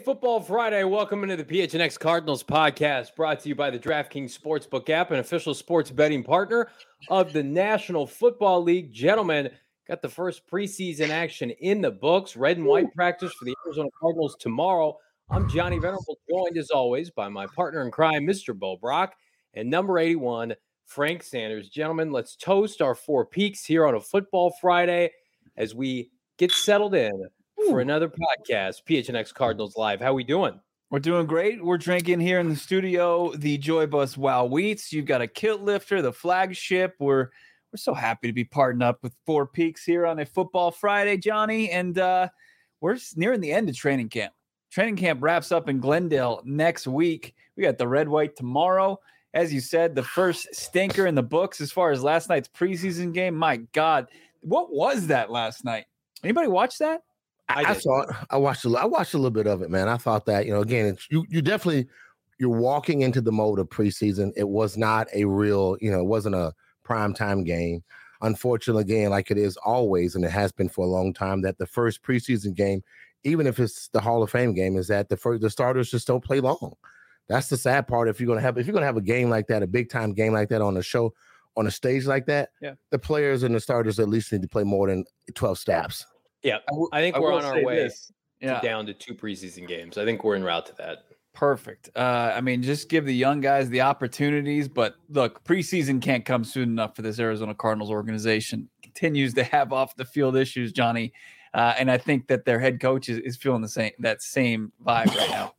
Football Friday. Welcome into the PHNX Cardinals podcast, brought to you by the DraftKings Sportsbook app, an official sports betting partner of the National Football League. Gentlemen, got the first preseason action in the books. Red and white practice for the Arizona Cardinals tomorrow. I'm Johnny Venerable, joined as always by my partner in crime, Mr. Bo Brock, and number 81, Frank Sanders. Gentlemen, let's toast our four peaks here on a Football Friday as we get settled in for another podcast, PHNX Cardinals Live. How we doing? We're doing great. We're drinking here in the studio the Joy Bus Wow Wheats. You've got a Kilt Lifter, the flagship. We're so happy to be partnering up with Four Peaks here on a Football Friday, Johnny. And we're nearing the end of training camp. Training camp wraps up in Glendale next week. We got the red white tomorrow. As you said, the first stinker in the books as far as last night's preseason game. My God, what was that last night? Anybody watch that? I saw it. I watched a little bit of it, man. I thought that, again, you definitely, you're walking into the mode of preseason. It was not a real, it wasn't a primetime game. Unfortunately, again, like it is always, and it has been for a long time, that the first preseason game, even if it's the Hall of Fame game, is that the starters just don't play long. That's the sad part. If you're gonna have a game like that, a big time game like that on a show, on a stage like that, the players and the starters at least need to play more than 12 snaps. Yeah, I think we're on our way down to 2 preseason games. I think we're en route to that. Perfect. Just give the young guys the opportunities. But look, preseason can't come soon enough for this Arizona Cardinals organization. Continues to have off the field issues, Johnny, and I think that their head coach is feeling that same vibe right now.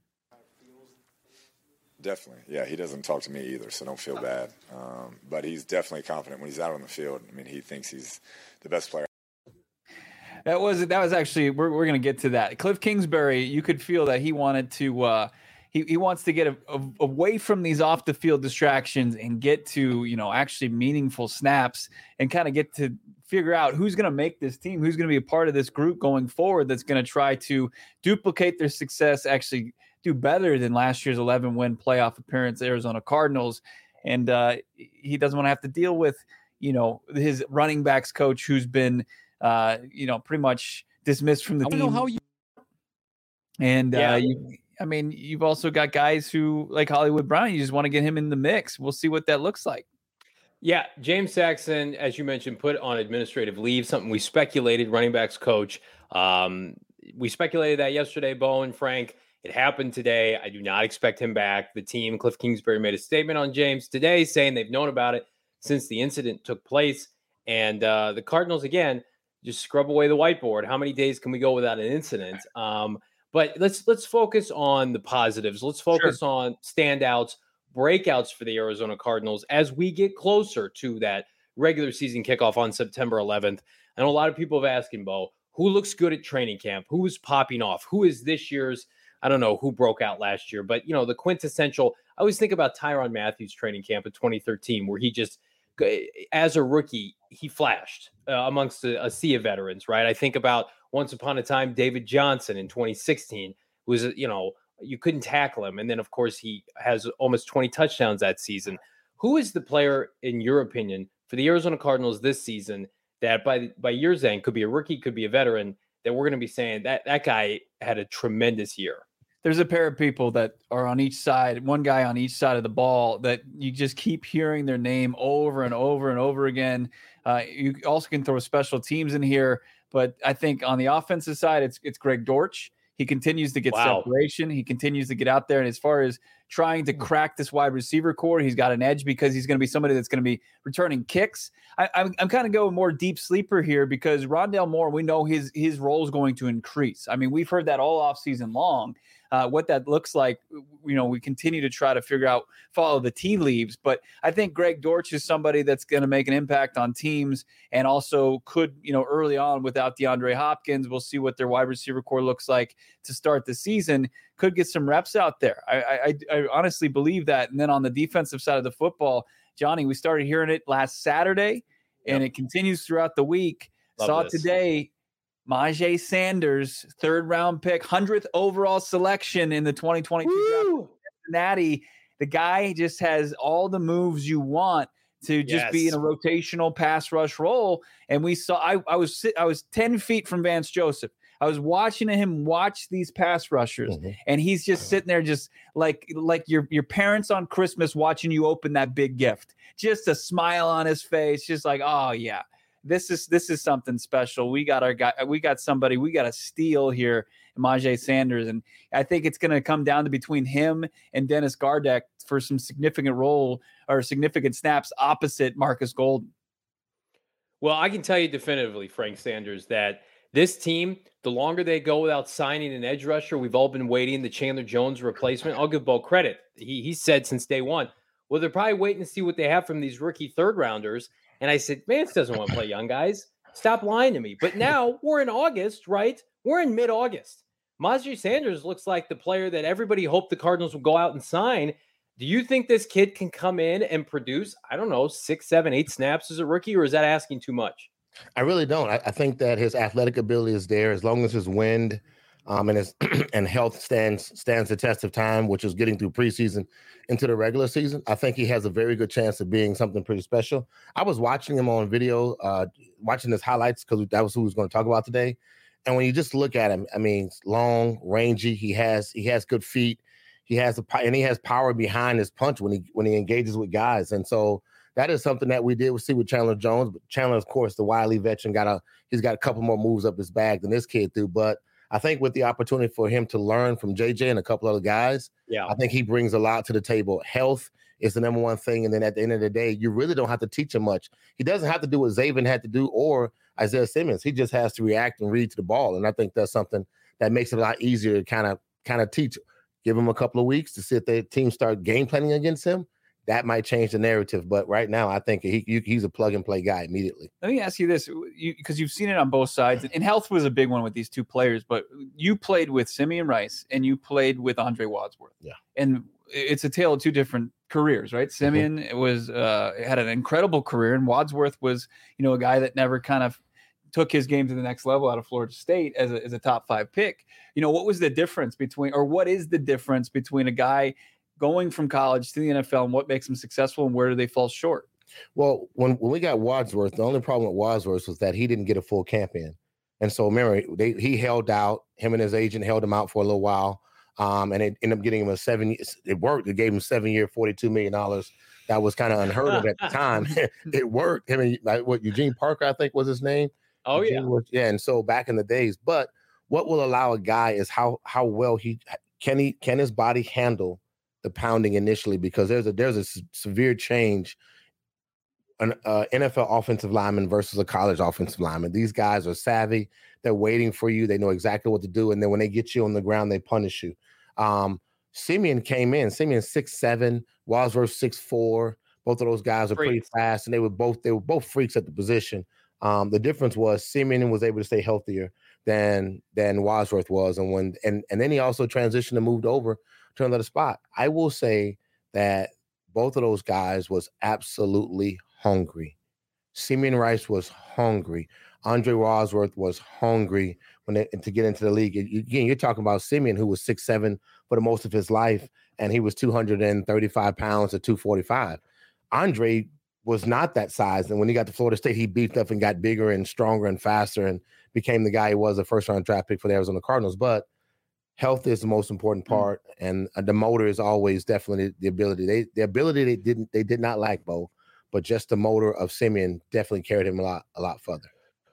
Definitely. Yeah, he doesn't talk to me either, so don't feel bad. But he's definitely confident when he's out on the field. I mean, he thinks he's the best player. That was actually, we're going to get to that. Cliff Kingsbury, you could feel that he wanted to, he wants to get away from these off the field distractions and get to, actually meaningful snaps and kind of get to figure out who's going to make this team, who's going to be a part of this group going forward that's going to try to duplicate their success, actually do better than last year's 11-win playoff appearance, Arizona Cardinals. And he doesn't want to have to deal with, his running backs coach who's been, pretty much dismissed from the team. I don't know how you. And you've also got guys who like Hollywood Brown. You just want to get him in the mix. We'll see what that looks like. Yeah, James Saxon, as you mentioned, put on administrative leave. Something we speculated. Running backs coach. We speculated that yesterday, Bo and Frank. It happened today. I do not expect him back. The team, Cliff Kingsbury, made a statement on James today saying they've known about it since the incident took place. And the Cardinals, again, just scrub away the whiteboard. How many days can we go without an incident? But let's focus on the positives. Let's focus on standouts, breakouts for the Arizona Cardinals as we get closer to that regular season kickoff on September 11th. I know a lot of people have asked him, Bo, who looks good at training camp? Who is popping off? Who is this year's, I don't know who broke out last year, but, the quintessential, I always think about Tyrann Mathieu training camp in 2013, where he just, as a rookie, he flashed amongst a sea of veterans, right? I think about once upon a time, David Johnson in 2016 was, you couldn't tackle him. And then, of course, he has almost 20 touchdowns that season. Who is the player, in your opinion, for the Arizona Cardinals this season that by year's end could be a rookie, could be a veteran, that we're going to be saying that guy had a tremendous year? There's a pair of people that are on each side, one guy on each side of the ball that you just keep hearing their name over and over and over again. You also can throw special teams in here, but I think on the offensive side, it's Greg Dortch. He continues to get separation. He continues to get out there. And as far as trying to crack this wide receiver core, he's got an edge because he's going to be somebody that's going to be returning kicks. I'm kind of going more deep sleeper here because Rondale Moore, we know his role is going to increase. I mean, we've heard that all off season long. What that looks like, we continue to try to figure out, follow the tea leaves. But I think Greg Dortch is somebody that's going to make an impact on teams and also could, early on without DeAndre Hopkins, we'll see what their wide receiver core looks like to start the season, could get some reps out there. I honestly believe that. And then on the defensive side of the football, Johnny, we started hearing it last Saturday and it continues throughout the week. Saw it today. Myjai Sanders, 3rd round pick, 100th overall selection in the 2022 draft. Cincinnati. The guy just has all the moves you want to just be in a rotational pass rush role. And we saw, I was 10 feet from Vance Joseph. I was watching him watch these pass rushers, and he's just sitting there, just like your parents on Christmas watching you open that big gift. Just a smile on his face, just like, oh yeah, this is something special. We got our guy. We got somebody. We got a steal here, Myjai Sanders, and I think it's going to come down to between him and Dennis Gardeck for some significant role or significant snaps opposite Marcus Golden. Well, I can tell you definitively, Frank Sanders, that this team, the longer they go without signing an edge rusher, we've all been waiting, the Chandler Jones replacement. I'll give Bo credit. He said since day one, well, they're probably waiting to see what they have from these rookie third rounders. And I said, Vance doesn't want to play young guys. Stop lying to me. But now we're in August, right? We're in mid-August. Myjai Sanders looks like the player that everybody hoped the Cardinals would go out and sign. Do you think this kid can come in and produce, I don't know, 6, 7, 8 snaps as a rookie, or is that asking too much? I really don't. I think that his athletic ability is there as long as his wind and his and health stands the test of time, which is getting through preseason into the regular season. I think he has a very good chance of being something pretty special. I was watching him on video, watching his highlights because that was who he was going to talk about today. And when you just look at him, I mean, long, rangy. He has good feet. He has power behind his punch when he engages with guys. And so that is something that we did see with Chandler Jones. But Chandler, of course, the wily veteran, he's got a couple more moves up his bag than this kid do. But I think with the opportunity for him to learn from JJ and a couple other guys, I think he brings a lot to the table. Health is the number one thing. And then at the end of the day, you really don't have to teach him much. He doesn't have to do what Zaven had to do or Isaiah Simmons. He just has to react and read to the ball. And I think that's something that makes it a lot easier to kind of teach. Give him a couple of weeks to see if the team start game planning against him. That might change the narrative. But right now, I think he's a plug-and-play guy immediately. Let me ask you this, because you've seen it on both sides. And health was a big one with these two players. But you played with Simeon Rice, and you played with Andre Wadsworth. Yeah. And it's a tale of two different careers, right? Simeon had an incredible career, and Wadsworth was, a guy that never kind of took his game to the next level out of Florida State as a top 5 pick. What was the difference what is the difference between a guy going from college to the NFL and what makes him successful and where do they fall short? Well, when we got Wadsworth, the only problem with Wadsworth was that he didn't get a full camp in. And so remember, he held out, him and his agent held him out for a little while. And it ended up getting him it worked. It gave him 7-year, $42 million. That was kind of unheard of at the time. It worked. Him and Eugene Parker, I think was his name. Oh, yeah. And so back in the days, but what will allow a guy is how well can his body handle the pounding initially, because there's a severe change an NFL offensive lineman versus a college offensive lineman. These guys are savvy. They're waiting for you. They know exactly what to do. And then when they get you on the ground, they punish you. Simeon came in. Simeon 6'7", Wadsworth 6'4". Both of those guys are pretty fast, and they were both freaks at the position. The difference was Simeon was able to stay healthier than Wadsworth was, and then he also transitioned and moved over to another spot. I will say that both of those guys was absolutely hungry. Simeon Rice was hungry. Andre Wadsworth was hungry to get into the league. Again, you're talking about Simeon, who was 6'7" for the most of his life, and he was 235 pounds to 245. Andre was not that size, and when he got to Florida State, he beefed up and got bigger and stronger and faster and became the guy he was, a first-round draft pick for the Arizona Cardinals. But health is the most important part, and the motor is always definitely the ability. The ability they did not lack, Bo, but just the motor of Simeon definitely carried him a lot further.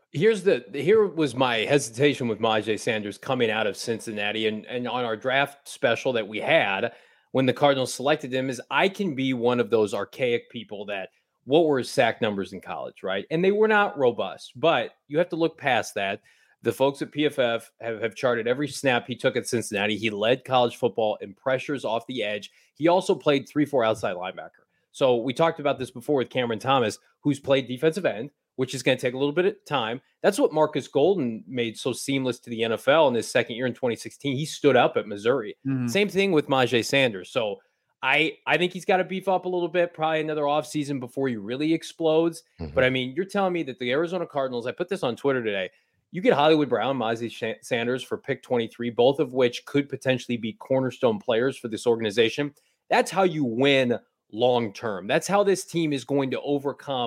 Here was my hesitation with Myjai Sanders coming out of Cincinnati, and on our draft special that we had when the Cardinals selected him, is I can be one of those archaic people that what were his sack numbers in college, right? And they were not robust, but you have to look past that. The folks at PFF have charted every snap he took at Cincinnati. He led college football in pressures off the edge. He also played 3-4 outside linebacker. So we talked about this before with Cameron Thomas, who's played defensive end, which is going to take a little bit of time. That's what Marcus Golden made so seamless to the NFL in his second year in 2016. He stood up at Missouri. Mm-hmm. Same thing with Myjai Sanders. So I think he's got to beef up a little bit, probably another offseason before he really explodes. Mm-hmm. But I mean, you're telling me that the Arizona Cardinals, I put this on Twitter today, you get Hollywood Brown, Myjai Sanders for pick 23, both of which could potentially be cornerstone players for this organization. That's how you win long term. That's how this team is going to overcome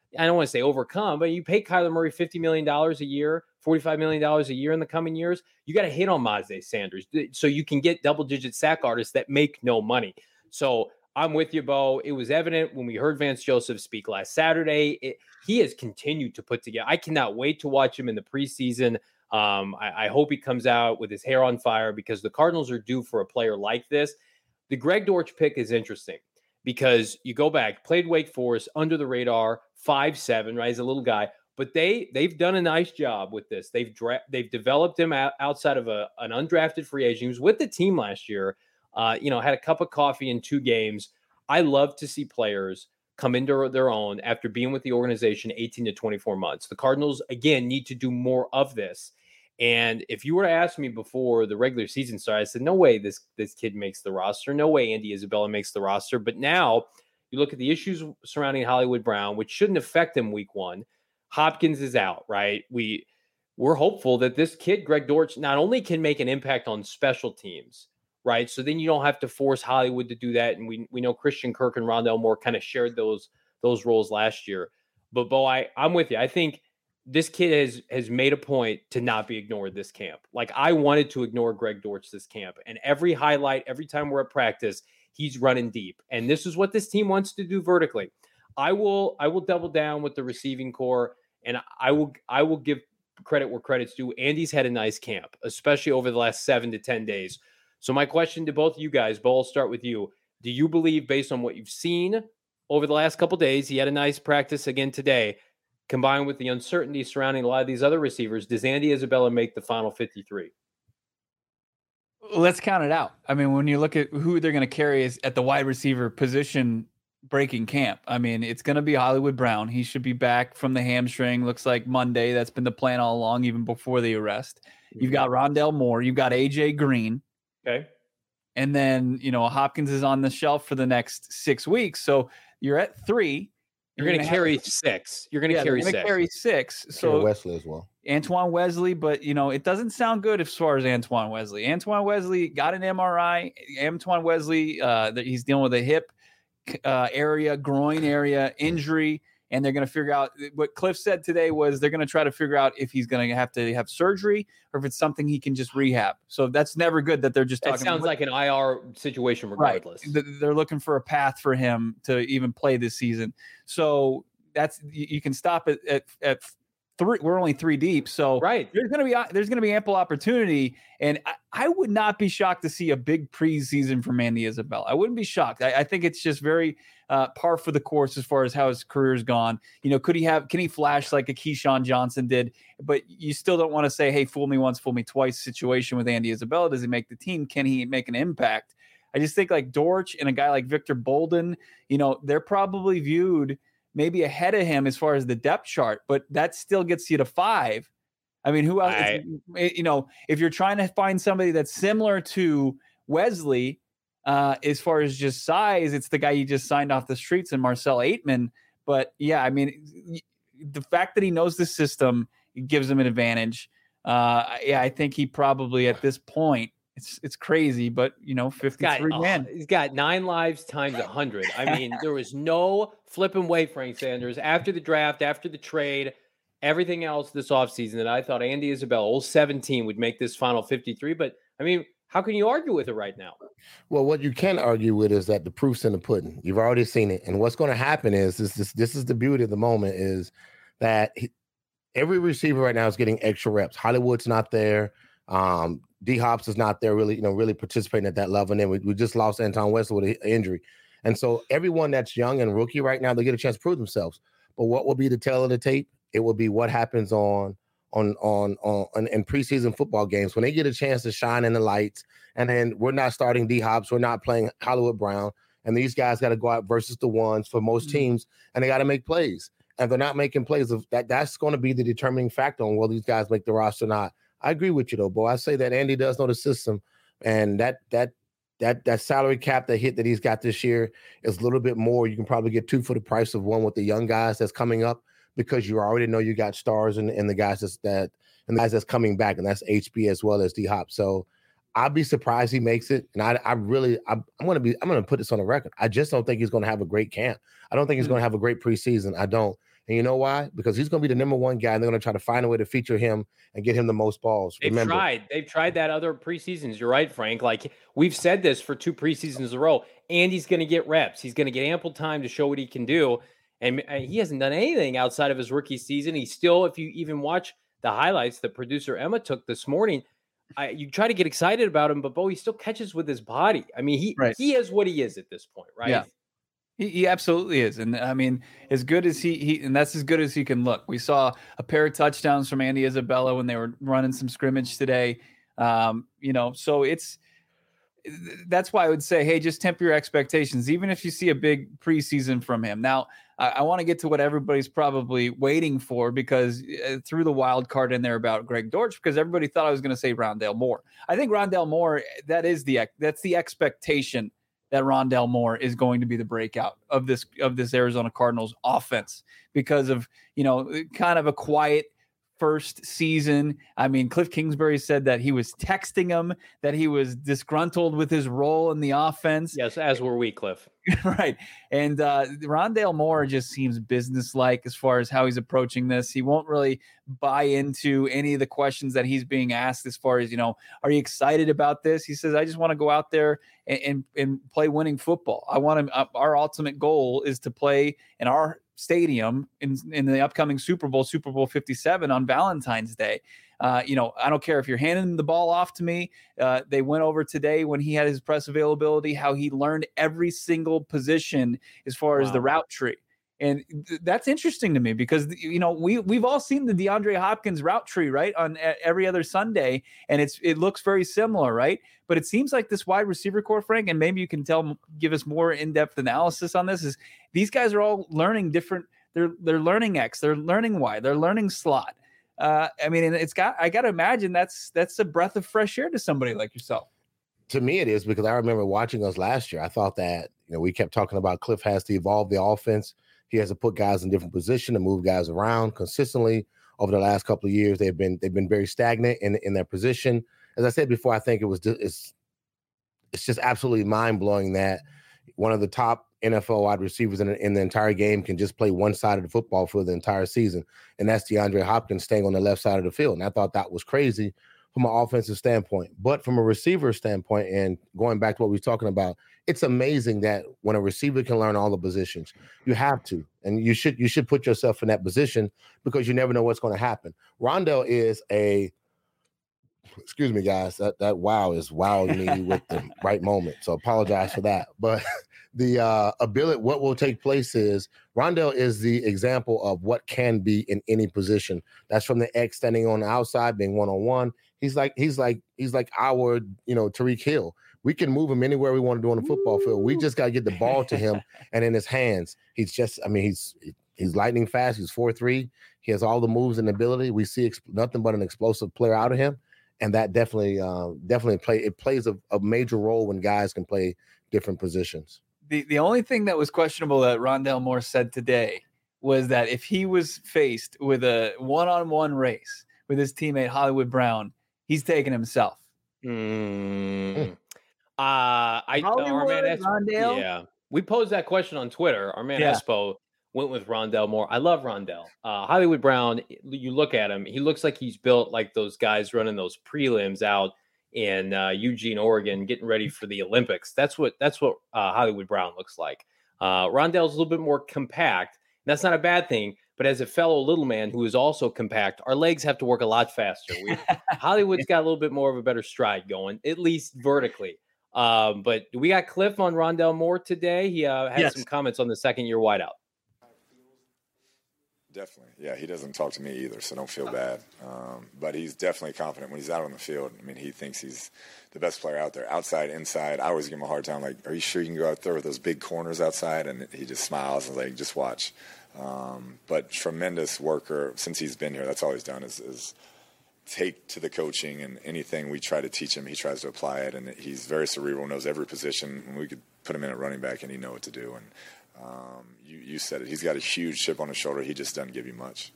I don't want to say overcome, but you pay Kyler Murray $50 million a year, $45 million a year in the coming years. You got to hit on Myjai Sanders so you can get double-digit sack artists that make no money. So I'm with you, Bo. It was evident when we heard Vance Joseph speak last Saturday. He has continued to put together. I cannot wait to watch him in the preseason. I hope he comes out with his hair on fire because the Cardinals are due for a player like this. The Greg Dortch pick is interesting because you go back, played Wake Forest, under the radar, 5'7", right? He's a little guy. But they've done a nice job with this. They've developed him outside of an undrafted free agent. He was with the team last year. Had a cup of coffee in 2 games. I love to see players come into their own after being with the organization 18 to 24 months. The Cardinals, again, need to do more of this. And if you were to ask me before the regular season started, I said, no way this kid makes the roster. No way Andy Isabella makes the roster. But now you look at the issues surrounding Hollywood Brown, which shouldn't affect him week 1. Hopkins is out, right? We're hopeful that this kid, Greg Dortch, not only can make an impact on special teams, right? So then you don't have to force Hollywood to do that. And we know Christian Kirk and Rondale Moore kind of shared those roles last year. But Bo, I'm with you. I think this kid has made a point to not be ignored this camp. Like I wanted to ignore Greg Dortch this camp. And every highlight, every time we're at practice, he's running deep. And this is what this team wants to do vertically. I will double down with the receiving core, and I will give credit where credit's due. Andy's had a nice camp, especially over the last 7 to 10 days. So my question to both of you guys, Bo, I'll start with you. Do you believe, based on what you've seen over the last couple of days, he had a nice practice again today, combined with the uncertainty surrounding a lot of these other receivers, does Andy Isabella make the final 53? Let's count it out. I mean, when you look at who they're going to carry is at the wide receiver position breaking camp. I mean, it's going to be Hollywood Brown. He should be back from the hamstring. Looks like Monday. That's been the plan all along, even before the arrest. You've got Rondale Moore. You've got AJ Green. Okay. And then, Hopkins is on the shelf for the next 6 weeks. So you're at 3. You're going to carry 6. You're going to carry 6. Carry 6. So Wesley as well. Antoine Wesley, but it doesn't sound good as far as Antoine Wesley. Antoine Wesley got an MRI. Antoine Wesley, he's dealing with a hip area, groin area injury, and they're going to figure out what Cliff said today was they're going to try to figure out if he's going to have surgery or if it's something he can just rehab. So that's never good that they're just talking. That sounds like an IR situation regardless. Right. They're looking for a path for him to even play this season. So that's, you can stop it at 3. We're only 3 deep. So right. There's going to be ample opportunity. And I would not be shocked to see a big preseason from Andy Isabella. I wouldn't be shocked. I think it's just very par for the course as far as how his career's gone. Can he flash like a Keyshawn Johnson did? But you still don't want to say, hey, fool me once, fool me twice situation with Andy Isabella. Does he make the team? Can he make an impact? I just think like Dortch and a guy like Victor Bolden, they're probably viewed maybe ahead of him as far as the depth chart, but that still gets you to 5. I mean, who else? If you're trying to find somebody that's similar to Wesley, as far as just size, it's the guy you just signed off the streets and Marcel Aitman. But yeah, I mean, the fact that he knows the system, it gives him an advantage. I think he probably at this point, it's crazy, but 53 men. He's got 9 lives times 100. I mean, there was no flipping way, Frank Sanders, after the draft, after the trade, everything else this offseason that I thought Andy Isabella, old 17, would make this final 53. But I mean, how can you argue with it right now? Well, what you can argue with is that the proof's in the pudding. You've already seen it. And what's going to happen is this is the beauty of the moment is that every receiver right now is getting extra reps. Hollywood's not there. D Hops is not there really participating at that level. And then we just lost Antoine Wesley with an injury. And so everyone that's young and rookie right now, they get a chance to prove themselves. But what will be the tail of the tape? It will be what happens in preseason football games when they get a chance to shine in the lights. And then we're not starting D Hops, we're not playing Hollywood Brown, and these guys got to go out versus the ones for most teams, and they got to make plays. And they're not making plays of that's going to be the determining factor on whether these guys make the roster or not. I agree with you though, Bo. I say that Andy does know the system, and that salary cap that he's got this year is a little bit more. You can probably get 2 for the price of 1 with the young guys that's coming up, because you already know you got stars and the guys the guys that's coming back, and that's HB as well as D Hop. So I'd be surprised he makes it. And I'm going to put this on the record. I just don't think he's going to have a great camp. I don't think he's going to have a great preseason. I don't. And you know why? Because he's going to be the number one guy, and they're going to try to find a way to feature him and get him the most balls. They've tried that other preseasons. You're right, Frank. Like, we've said this for 2 preseasons in a row. Andy's going to get reps. He's going to get ample time to show what he can do. And he hasn't done anything outside of his rookie season. He's still, if you even watch the highlights that producer Emma took this morning, you try to get excited about him, but Bo, he still catches with his body. I mean, he is what he is at this point, right? Yeah. He absolutely is. And I mean, as good as he and that's as good as he can look. We saw a pair of touchdowns from Andy Isabella when they were running some scrimmage today. So that's why I would say, hey, just temper your expectations, even if you see a big preseason from him. Now, I want to get to what everybody's probably waiting for, because threw the wild card in there about Greg Dortch, because everybody thought I was going to say Rondale Moore. I think Rondale Moore, that's the expectation, that Rondale Moore is going to be the breakout of this Arizona Cardinals offense, because of, kind of a quiet first season. I mean, Cliff Kingsbury said that he was texting him, that he was disgruntled with his role in the offense. Yes, as were we, Cliff. Right. And Rondale Moore just seems businesslike as far as how he's approaching this. He won't really buy into any of the questions that he's being asked as far as, are you excited about this? He says, I just want to go out there and play winning football. Our ultimate goal is to play in our stadium in the upcoming Super Bowl 57 on Valentine's Day. I don't care if you're handing the ball off to me. They went over today when he had his press availability, how he learned every single position as far as the route tree. And that's interesting to me, because, we've all seen the DeAndre Hopkins route tree, right, on every other Sunday, and it looks very similar, right? But it seems like this wide receiver core, Frank, and maybe you can give us more in-depth analysis on this, is these guys are all learning different. They're learning X, they're learning Y, they're learning slot. I got to imagine that's a breath of fresh air to somebody like yourself. To me, it is, because I remember watching us last year. I thought that, we kept talking about Cliff has to evolve the offense. He has to put guys in different positions and move guys around consistently. Over the last couple of years, they've been very stagnant in their position. As I said before, I think it's just absolutely mind blowing that one of the top NFL wide receivers in the entire game can just play one side of the football for the entire season, and that's DeAndre Hopkins staying on the left side of the field. And I thought that was crazy from an offensive standpoint. But from a receiver standpoint, and going back to what we were talking about, it's amazing that when a receiver can learn all the positions, you have to, and you should put yourself in that position, because you never know what's going to happen. Rondale is excuse me, guys, that wow is wowing me with the right moment. So apologize for that. But the ability, what will take place is Rondale is the example of what can be in any position. That's from the X standing on the outside, being one-on-one. He's like our, Tyreek Hill. We can move him anywhere we want to do on the football field. We just got to get the ball to him and in his hands. He's just, he's lightning fast. He's 4'3". He has all the moves and ability. We see nothing but an explosive player out of him. And that definitely plays a major role when guys can play different positions. The only thing that was questionable that Rondale Moore said today was that if he was faced with a one-on-one race with his teammate Hollywood Brown, he's taking himself. Rondale? Yeah. We posed that question on Twitter. Our man Espo went with Rondale Moore. I love Rondale. Hollywood Brown, you look at him, he looks like he's built like those guys running those prelims out in Eugene, Oregon, getting ready for the Olympics. That's what Hollywood Brown looks like. Rondale's a little bit more compact. That's not a bad thing, but as a fellow little man who is also compact, our legs have to work a lot faster. Hollywood's got a little bit more of a better stride going, at least vertically. But we got Cliff on Rondale Moore today. He had some comments on the second-year wideout. Definitely. Yeah, he doesn't talk to me either, so don't feel bad. But he's definitely confident when he's out on the field. He thinks he's the best player out there. Outside, inside, I always give him a hard time, like, are you sure you can go out there with those big corners outside? And he just smiles and like, just watch. But tremendous worker since he's been here. That's all he's done is take to the coaching, and anything we try to teach him, he tries to apply it. And he's very cerebral, knows every position. And we could put him in at running back and he'd know what to do. And you said it. He's got a huge chip on his shoulder. He just doesn't give you much.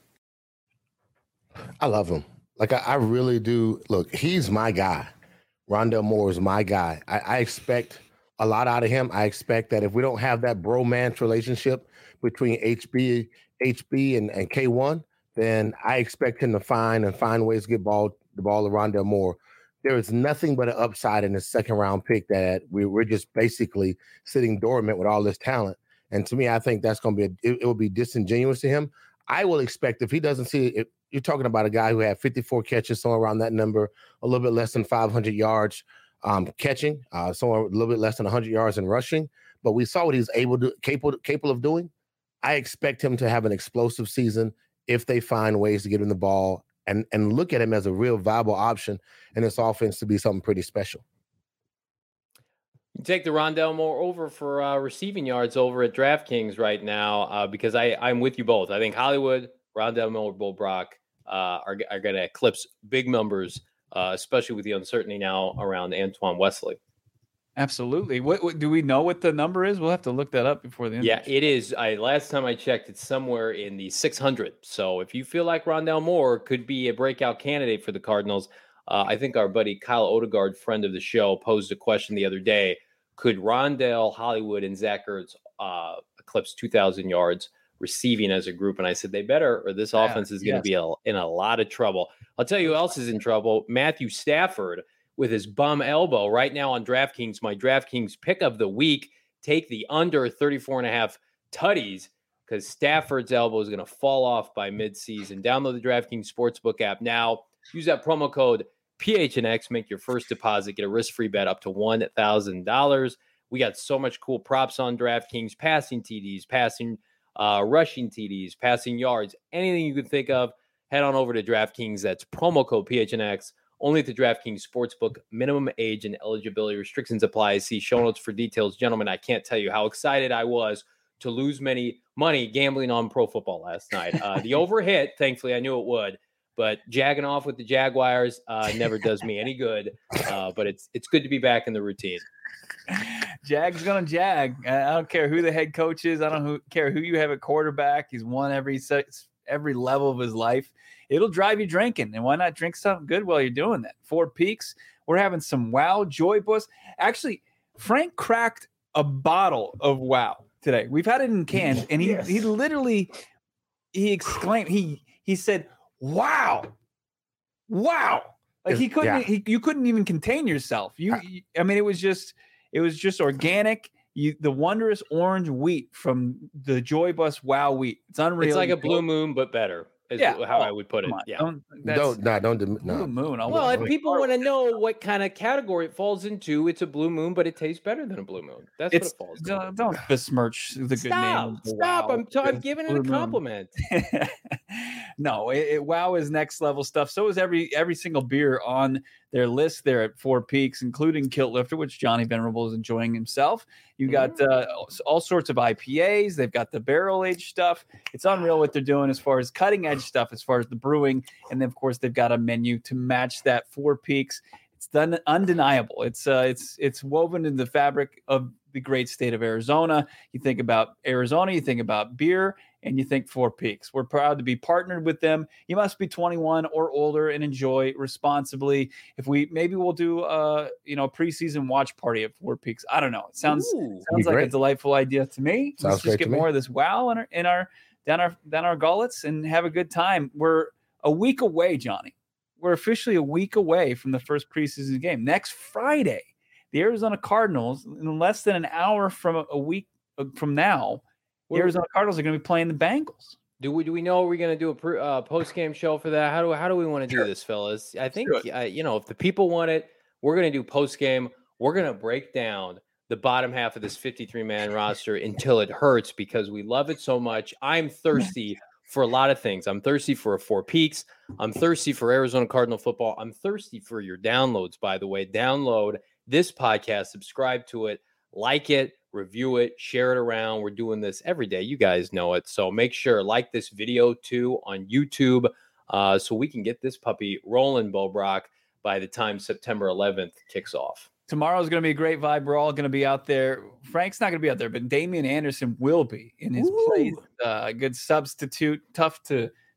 I love him. Like, I really do. Look, he's my guy. Rondale Moore is my guy. I expect a lot out of him. I expect that if we don't have that bromance relationship between HB and K1, then I expect him to find ways to get the ball to Rondale Moore. There is nothing but an upside in the second round pick that we're just basically sitting dormant with all this talent. And to me, I think that's going to be it will be disingenuous to him. I will expect if he doesn't see it, you're talking about a guy who had 54 catches, somewhere around that number, a little bit less than 500 yards catching, somewhere a little bit less than 100 yards in rushing. But we saw what he's capable of doing. I expect him to have an explosive season if they find ways to get him the ball and look at him as a real viable option in this offense to be something pretty special. You take the Rondale Moore over for receiving yards over at DraftKings right now because I'm with you both. I think Hollywood, Rondale Moore, Bo Brock are going to eclipse big numbers, especially with the uncertainty now around Antoine Wesley. Absolutely. What do we know what the number is? We'll have to look that up before the end. Yeah, it is. Last time I checked, it's somewhere in the 600. So if you feel like Rondale Moore could be a breakout candidate for the Cardinals, I think our buddy Kyle Odegaard, friend of the show, posed a question the other day. Could Rondale, Hollywood, and Zach Ertz eclipse 2,000 yards receiving as a group? And I said they better, or this offense is going to be in a lot of trouble. I'll tell you who else is in trouble. Matthew Stafford with his bum elbow right now on DraftKings. My DraftKings pick of the week. Take the under 34.5 tutties because Stafford's elbow is going to fall off by midseason. Download the DraftKings Sportsbook app now. Use that promo code PHNX. Make your first deposit. Get a risk-free bet up to $1,000. We got so much cool props on DraftKings. Passing TDs, rushing TDs, passing yards, anything you can think of. Head on over to DraftKings. That's promo code PHNX. Only at the DraftKings Sportsbook. Minimum age and eligibility restrictions apply. See show notes for details. Gentlemen, I can't tell you how excited I was to lose money gambling on pro football last night. The over hit, thankfully, I knew it would. But jagging off with the Jaguars never does me any good. But it's good to be back in the routine. Jag's going to jag. I don't care who the head coach is. I don't care who you have at quarterback. He's won every level of his life. It'll drive you drinking. And why not drink something good while you're doing that? Four Peaks. We're having some Wow Joy Bus. Actually, Frank cracked a bottle of Wow today. We've had it in cans. And he literally exclaimed, he said, wow. Like you couldn't even contain yourself. I mean, it was just organic. The wondrous orange wheat from the Joy Bus Wow wheat. It's unreal. It's like a Blue Moon, but better. Is how I would put it. Yeah. Don't Blue Moon. Well, if people want to know what kind of category it falls into, it's a Blue Moon, but it tastes better than a Blue Moon. That's what it falls into. Don't besmirch the good name. Stop. Wow. I'm giving it a compliment. No, Wow is next level stuff. So is every single beer on their list there at Four Peaks, including Kilt Lifter, which Johnny Venerable is enjoying himself. You got all sorts of IPAs. They've got the barrel aged stuff. It's unreal what they're doing as far as cutting edge stuff, as far as the brewing. And then, of course, they've got a menu to match that. Four Peaks. It's done undeniable. It's woven in the fabric of the great state of Arizona. You think about Arizona, you think about beer, and you think Four Peaks. We're proud to be partnered with them. You must be 21 or older and enjoy responsibly. Maybe we'll do a preseason watch party at Four Peaks. I don't know. It sounds like a delightful idea to me. Let's just get more of this Wow down our gullets and have a good time. We're a week away, Johnny. We're officially a week away from the first preseason game. Next Friday, the Arizona Cardinals, in less than an hour from a week from now, the Arizona Cardinals are going to be playing the Bengals. Do we know we're going to do a post-game show for that? How do we want to do this, fellas? I think, if the people want it, we're going to do post-game. We're going to break down the bottom half of this 53-man roster until it hurts because we love it so much. I'm thirsty for a lot of things. I'm thirsty for a Four Peaks. I'm thirsty for Arizona Cardinal football. I'm thirsty for your downloads, by the way. Download this podcast, subscribe to it, like it, review it, share it around. We're doing this every day. You guys know it. So make sure like this video too on YouTube so we can get this puppy rolling, Bo Brock, by the time September 11th kicks off. Tomorrow's going to be a great vibe. We're all going to be out there. Frank's not going to be out there, but Damian Anderson will be in his place. Good substitute. Tough to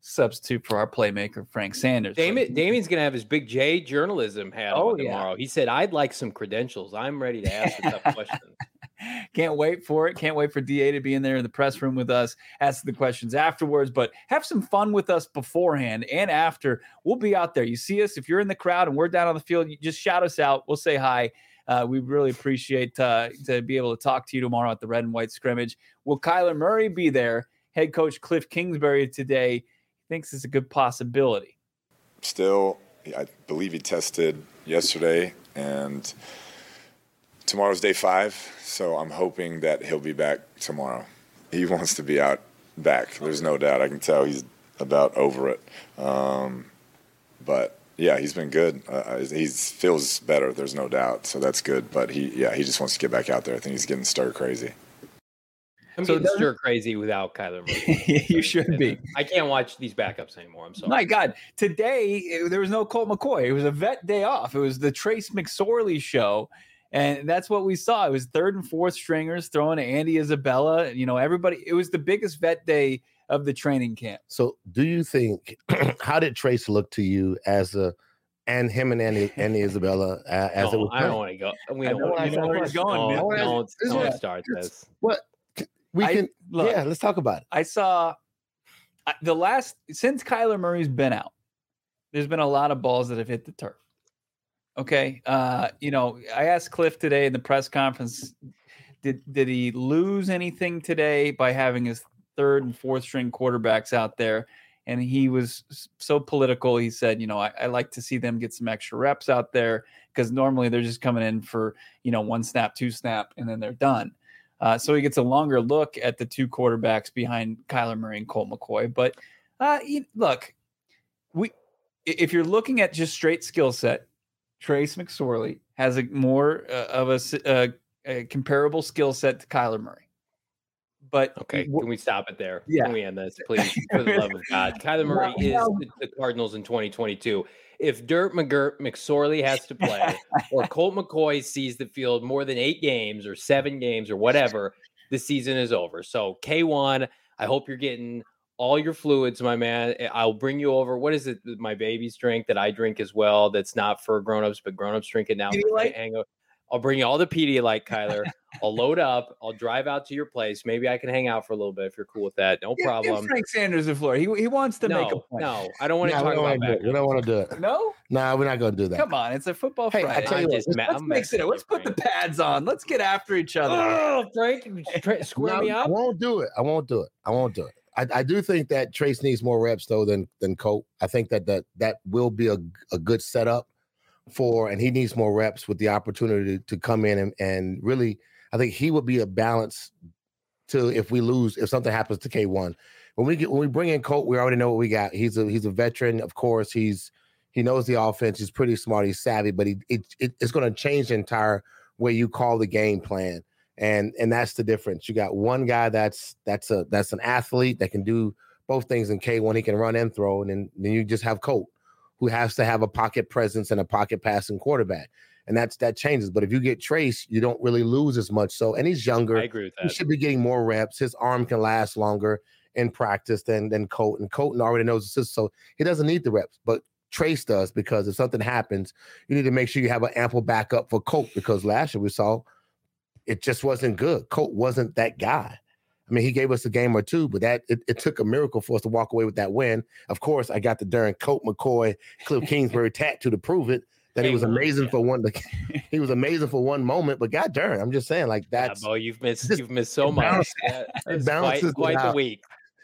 substitute for our playmaker, Frank Sanders. Damien's going to have his Big J journalism hat on tomorrow. Yeah. He said, I'd like some credentials. I'm ready to ask the tough questions. Can't wait for it. Can't wait for DA to be in there in the press room with us, ask the questions afterwards, but have some fun with us beforehand and after. We'll be out there. You see us, if you're in the crowd and we're down on the field, you just shout us out. We'll say hi. We really appreciate to be able to talk to you tomorrow at the red and white scrimmage. Will Kyler Murray be there? Head coach Cliff Kingsbury today thinks it's a good possibility. Still, I believe he tested yesterday, and tomorrow's day 5, so I'm hoping that he'll be back tomorrow. He wants to be back. There's no doubt. I can tell he's about over it. But yeah, he's been good. He feels better. There's no doubt. So that's good. But he just wants to get back out there. I think he's getting stir crazy. I'm getting stir crazy without Kyler Murray. You should be. I can't watch these backups anymore. I'm sorry. My God. Today, there was no Colt McCoy. It was a vet day off. It was the Trace McSorley show. And that's what we saw. It was 3rd and 4th stringers throwing to Andy Isabella. You know, everybody. It was the biggest vet day of the training camp. So do you think, how did Trace look to you and him and Andy Isabella as it was? I don't want to go. We don't want to where he's going. Don't start this. What? Let's talk about it. I saw since Kyler Murray's been out, there's been a lot of balls that have hit the turf. Okay. I asked Cliff today in the press conference, did he lose anything today by having his 3rd and 4th string quarterbacks out there? And he was so political. He said, I like to see them get some extra reps out there because normally they're just coming in for, 1 snap, 2 snap, and then they're done. So he gets a longer look at the 2 quarterbacks behind Kyler Murray and Colt McCoy. But look, if you're looking at just straight skill set, Trace McSorley has a more of a comparable skill set to Kyler Murray. But okay, can we stop it there? Yeah. Can we end this, please? For the love of God. Kyler Murray is the Cardinals in 2022. If Dirt McSorley has to play or Colt McCoy sees the field more than 8 games or 7 games or whatever, the season is over. So K1, I hope you're getting all your fluids, my man. I'll bring you over. What is it my babies drink that I drink as well? That's not for grownups, but grownups drink it now. I'll bring you all the Pedialyte, Kyler. I'll load up. I'll drive out to your place. Maybe I can hang out for a little bit if you're cool with that. No problem. Give Frank Sanders the floor. He wants to make a point. No, I don't want to talk about that. We don't want to do it. No? No, we're not going to do that. Come on. It's a football Friday. I tell you let's mix it up. Let's put the pads on. Let's get after each other. Oh, Frank, square me up. I won't do it. I do think that Trace needs more reps, though, than Colt. I think that will be a good setup and he needs more reps with the opportunity to come in and really, I think he would be a balance to if something happens to K1. When we bring in Colt, we already know what we got. He's a veteran, of course. He knows the offense. He's pretty smart. He's savvy, but it's going to change the entire way you call the game plan. And that's the difference. You got one guy that's an athlete that can do both things in K1. He can run and throw, and then you just have Colt, who has to have a pocket presence and a pocket passing quarterback. And that changes. But if you get Trace, you don't really lose as much. So, and he's younger. I agree with that. He should be getting more reps. His arm can last longer in practice than Colt. And Colton already knows the system, so he doesn't need the reps. But Trace does, because if something happens, you need to make sure you have an ample backup for Colt, because last year we saw it just wasn't good. Colt wasn't that guy. I mean, he gave us a game or two, but it took a miracle for us to walk away with that win. Of course, I got the darn Colt McCoy, Cliff Kingsbury tattoo to prove it. That he was amazing for one. He was amazing for one moment, but god darn, I'm just saying, like that's. Yeah, Bo, you've missed so much. It balances quite the week.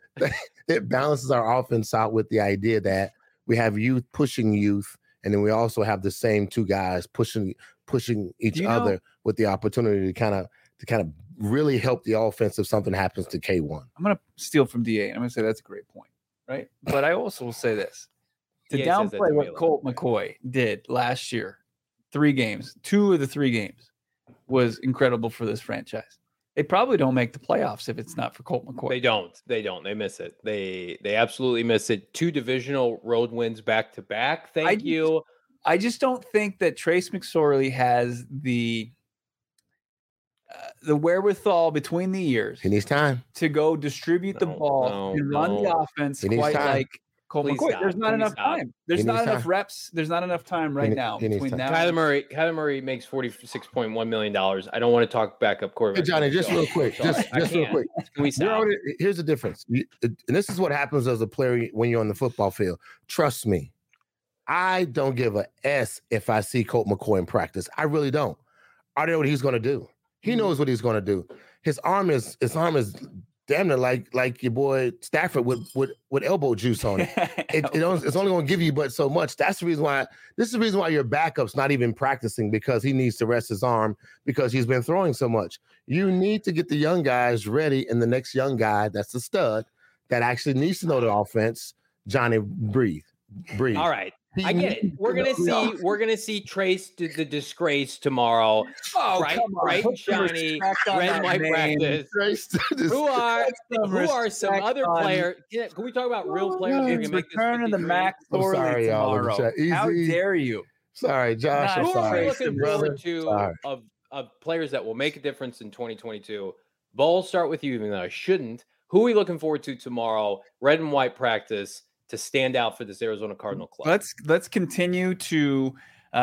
It balances our offense out with the idea that we have youth pushing youth, and then we also have the same 2 guys pushing each other with the opportunity to kind of really help the offense if something happens to K1. I'm going to steal from DA. I'm going to say that's a great point, right? But I also will say this. To downplay what Colt McCoy did last year, 3 games, 2 of the 3 games was incredible for this franchise. They probably don't make the playoffs if it's not for Colt McCoy. They don't. They miss it. They absolutely miss it. 2 divisional road wins back to back. Thank you. I just don't think that Trace McSorley has the wherewithal between the years. He needs time to go distribute the ball and run the offense quite like Colt Please McCoy. stop. There's not Please enough stop. time. There's He not needs enough time. reps. There's not enough time right now he needs between time. now. Kyler Murray makes $46.1 million. I don't want to talk backup quarterback. Hey, Johnny, just real quick. Just real quick. Can we stop? Here's the difference. And this is what happens as a player when you're on the football field. Trust me. I don't give a S if I see Colt McCoy in practice. I really don't. I know what he's going to do. He knows what he's going to do. His arm is damn near like your boy Stafford with elbow juice on it. It's only going to give you but so much. That's the reason why. This is the reason why your backup's not even practicing, because he needs to rest his arm because he's been throwing so much. You need to get the young guys ready, and the next young guy that's a stud that actually needs to know the offense. Johnny, breathe. All right. I get it. We're gonna see Trace the disgrace tomorrow. Oh, bright and shiny, red and white practice. Who are some other players? Yeah, can we talk about real players? It's return of the Max Thorley tomorrow. How dare you? Sorry, Josh. Who are we sorry. looking forward to of players that will make a difference in 2022? Bull, start with you, even though I shouldn't. Who are we looking forward to tomorrow? Red and white practice to stand out for this Arizona Cardinal club. Let's continue to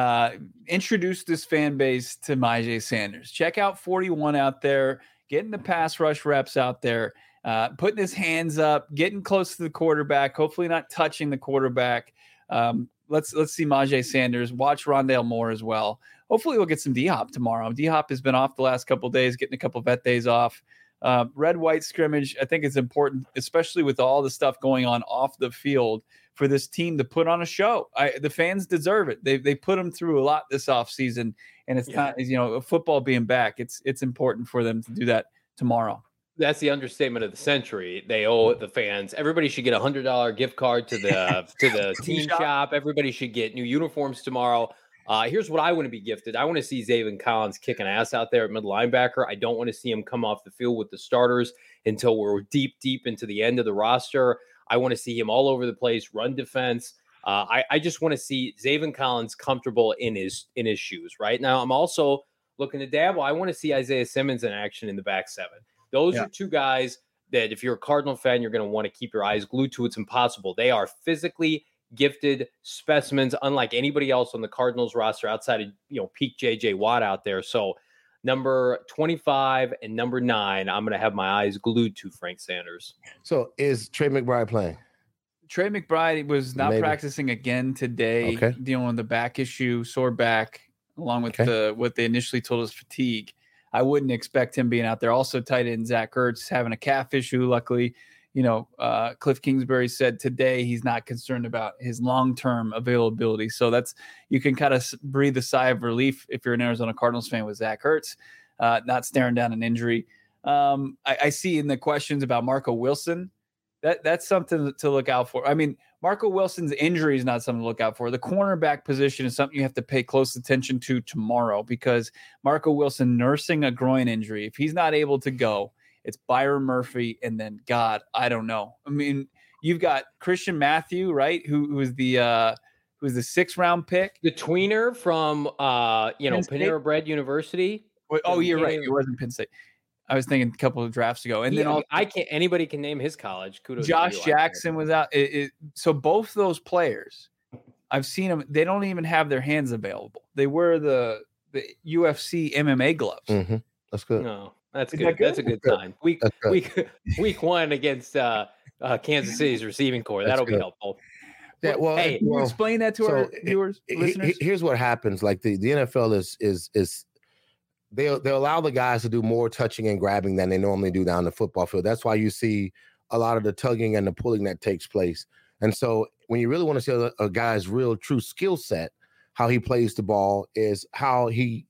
introduce this fan base to Myjai Sanders. Check out 41 out there, getting the pass rush reps out there, putting his hands up, getting close to the quarterback, hopefully not touching the quarterback. Let's see Myjai Sanders. Watch Rondale Moore as well. Hopefully we'll get some D-Hop tomorrow. D-Hop has been off the last couple of days, getting a couple vet days off. Red-white scrimmage, I think it's important, especially with all the stuff going on off the field, for this team to put on a show. The fans deserve it. They put them through a lot this offseason, and it's not, football being back. It's important for them to do that tomorrow. That's the understatement of the century. They owe the fans. Everybody should get $100 gift card to the team shop. Everybody should get new uniforms tomorrow. Here's what I want to be gifted. I want to see Zaven Collins kicking ass out there at middle linebacker. I don't want to see him come off the field with the starters until we're deep into the end of the roster. I want to see him all over the place, run defense. I just want to see Zaven Collins comfortable in his shoes. Right now, I'm also looking to dabble. I want to see Isaiah Simmons in action in the back seven. Those are two guys that if you're a Cardinal fan, you're going to want to keep your eyes glued to. It's impossible. They are physically gifted specimens, unlike anybody else on the Cardinals roster outside of, peak JJ Watt out there. So number 25 and number 9, I'm going to have my eyes glued to Frank Sanders. So is Trey McBride playing? Trey McBride was not practicing again today, dealing with the back issue, sore back, along with what they initially told us, fatigue. I wouldn't expect him being out there. Also tight end Zach Ertz having a calf issue. Luckily, Cliff Kingsbury said today he's not concerned about his long-term availability. So you can kind of breathe a sigh of relief if you're an Arizona Cardinals fan with Zach Ertz, not staring down an injury. I see in the questions about Marco Wilson, that's something to look out for. I mean, Marco Wilson's injury is not something to look out for. The cornerback position is something you have to pay close attention to tomorrow, because Marco Wilson nursing a groin injury. If he's not able to go, it's Byron Murphy, and then God, I don't know. I mean, you've got Christian Matthew, right? Who was the 6th round pick, the tweener from Panera Bread University. Oh, you're right. It wasn't Penn State. I was thinking a couple of drafts ago, and then anybody can name his college. Kudos. Josh Jackson was out. So both those players, I've seen them. They don't even have their hands available. They wear the UFC MMA gloves. Mm-hmm. That's good. No. That's good. That's a good sign. Week 1 against Kansas City's receiving core. That'll be helpful. Yeah. Well, hey, can you explain that to our viewers, listeners? Here's what happens. Like the NFL is they'll allow the guys to do more touching and grabbing than they normally do down the football field. That's why you see a lot of the tugging and the pulling that takes place. And so when you really want to see a guy's real true skill set, how he plays the ball is how he's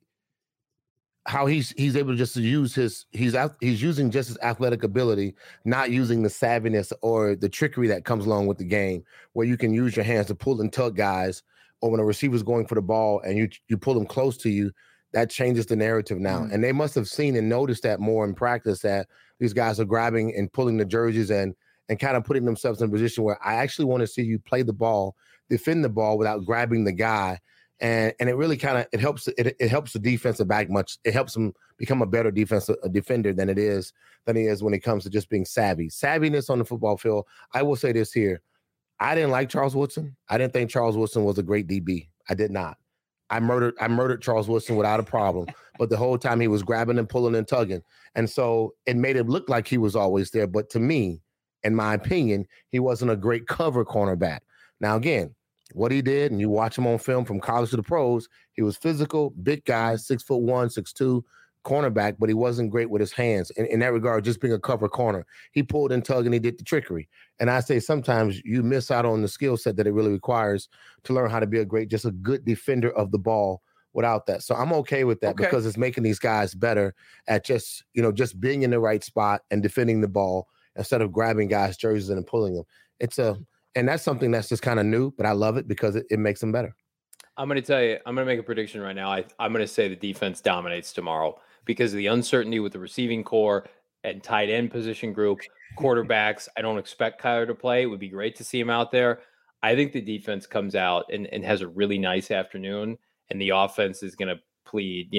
able to just use he's using just his athletic ability, not using the savviness or the trickery that comes along with the game, where you can use your hands to pull and tug guys, or when a receiver's going for the ball and you pull them close to you. That changes the narrative now. And they must have seen and noticed that more in practice, that these guys are grabbing and pulling the jerseys and kind of putting themselves in a position where I actually want to see you play the ball, defend the ball without grabbing the guy. And it really kind of it helps the defensive back much. It helps him become a better defender than he is when it comes to just being savvy. Savviness on the football field. I will say this here. I didn't like Charles Woodson. I didn't think Charles Woodson was a great DB. I did not. I murdered Charles Woodson without a problem. But the whole time he was grabbing and pulling and tugging. And so it made it look like he was always there. But to me, in my opinion, he wasn't a great cover cornerback. Now, again, what he did, and you watch him on film from college to the pros, he was physical, big guy, 6'1", 6'2", cornerback, but he wasn't great with his hands. In that regard, just being a cover corner. He pulled and tugged and he did the trickery. And I say sometimes you miss out on the skill set that it really requires to learn how to be just a good defender of the ball without that. So I'm okay with that because it's making these guys better at just being in the right spot and defending the ball instead of grabbing guys' jerseys and pulling them. And that's something that's just kind of new, but I love it because it makes them better. I'm going to tell you, I'm going to make a prediction right now. I'm going to say the defense dominates tomorrow because of the uncertainty with the receiving core and tight end position group, quarterbacks. I don't expect Kyler to play. It would be great to see him out there. I think the defense comes out and has a really nice afternoon, and the offense is going to plead,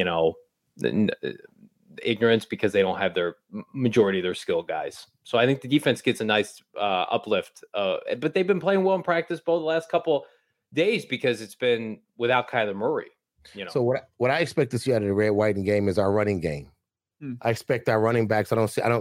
ignorance because they don't have their majority of their skilled guys. So I think the defense gets a nice uplift. But they've been playing well in practice both the last couple days because it's been without Kyler Murray. So what I expect to see out of the red, white, and game is our running game. I expect our running backs.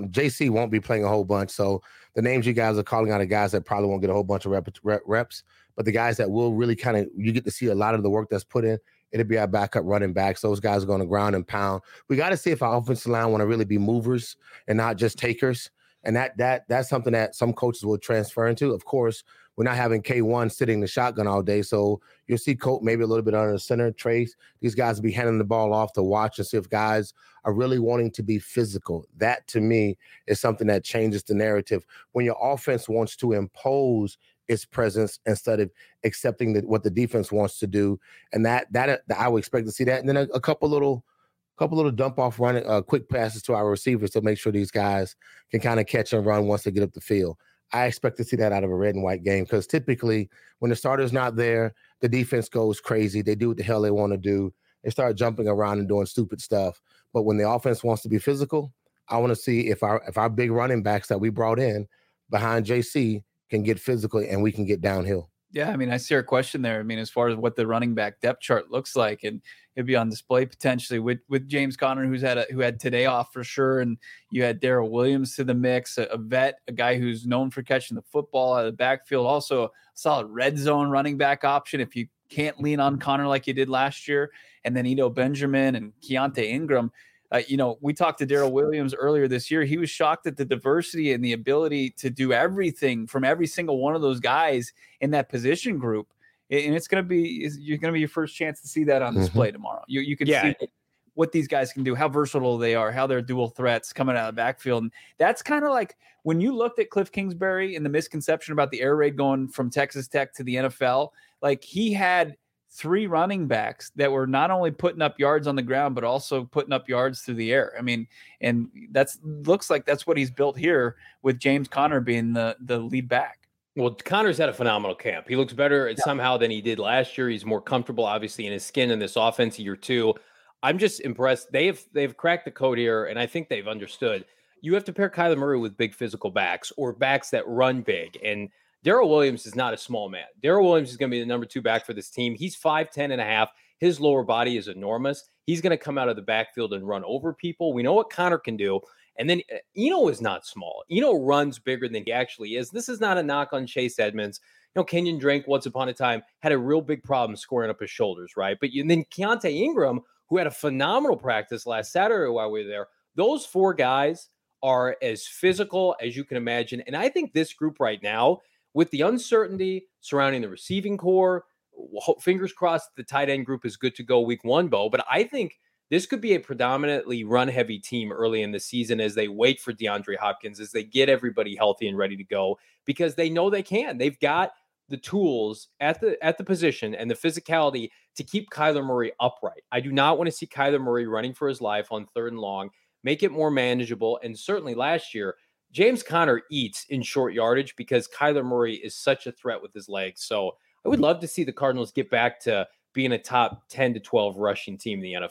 JC won't be playing a whole bunch. So the names you guys are calling out are guys that probably won't get a whole bunch of reps, but the guys that will really you get to see a lot of the work that's put in. It'll be our backup running backs. Those guys are going to ground and pound. We got to see if our offensive line want to really be movers and not just takers. And that's something that some coaches will transfer into. Of course, we're not having K1 sitting in the shotgun all day. So you'll see Colt maybe a little bit under the center, Trace. These guys will be handing the ball off to watch and see if guys are really wanting to be physical. That, to me, is something that changes the narrative. When your offense wants to impose its presence instead of accepting what the defense wants to do. And that I would expect to see that. And then a couple little dump off running, quick passes to our receivers to make sure these guys can kind of catch and run once they get up the field. I expect to see that out of a red and white game because typically when the starter's not there, the defense goes crazy. They do what the hell they want to do. They start jumping around and doing stupid stuff. But when the offense wants to be physical, I want to see if our big running backs that we brought in behind JC can get physical and we can get downhill. Yeah, I mean, I see our question there. I mean, as far as what the running back depth chart looks like, and it'd be on display potentially with James Conner, who had today off for sure, and you had Darrell Williams to the mix, a vet, a guy who's known for catching the football out of the backfield, also a solid red zone running back option if you can't lean on Conner like you did last year, and then Eno Benjamin and Keontae Ingram. We talked to Darrell Williams earlier this year. He was shocked at the diversity and the ability to do everything from every single one of those guys in that position group. And you're going to be your first chance to see that on display tomorrow. You can see what these guys can do, how versatile they are, how they're dual threats coming out of the backfield. And that's kind of like when you looked at Cliff Kingsbury and the misconception about the air raid going from Texas Tech to the NFL, like he had 3 running backs that were not only putting up yards on the ground, but also putting up yards through the air. I mean, and looks like that's what he's built here with James Conner being the lead back. Well, Conner's had a phenomenal camp. He looks better somehow than he did last year. He's more comfortable, obviously, in his skin in this offense year 2. I'm just impressed. They've cracked the code here, and I think they've understood. You have to pair Kyler Murray with big physical backs or backs that run big. And Darrell Williams is not a small man. Darrell Williams is going to be the number 2 back for this team. He's 5'10" and a half. His lower body is enormous. He's going to come out of the backfield and run over people. We know what Conner can do. And then Eno is not small. Eno runs bigger than he actually is. This is not a knock on Chase Edmonds. Kenyon Drake, once upon a time, had a real big problem squaring up his shoulders, right? But then Keontae Ingram, who had a phenomenal practice last Saturday while we were there, those 4 guys are as physical as you can imagine. And I think this group right now, with the uncertainty surrounding the receiving core, fingers crossed the tight end group is good to go week 1, Bo. But I think this could be a predominantly run-heavy team early in the season as they wait for DeAndre Hopkins, as they get everybody healthy and ready to go, because they know they can. They've got the tools at the position and the physicality to keep Kyler Murray upright. I do not want to see Kyler Murray running for his life on 3rd and long. Make it more manageable. And certainly last year, James Conner eats in short yardage because Kyler Murray is such a threat with his legs. So I would love to see the Cardinals get back to being a top 10 to 12 rushing team in the NFL.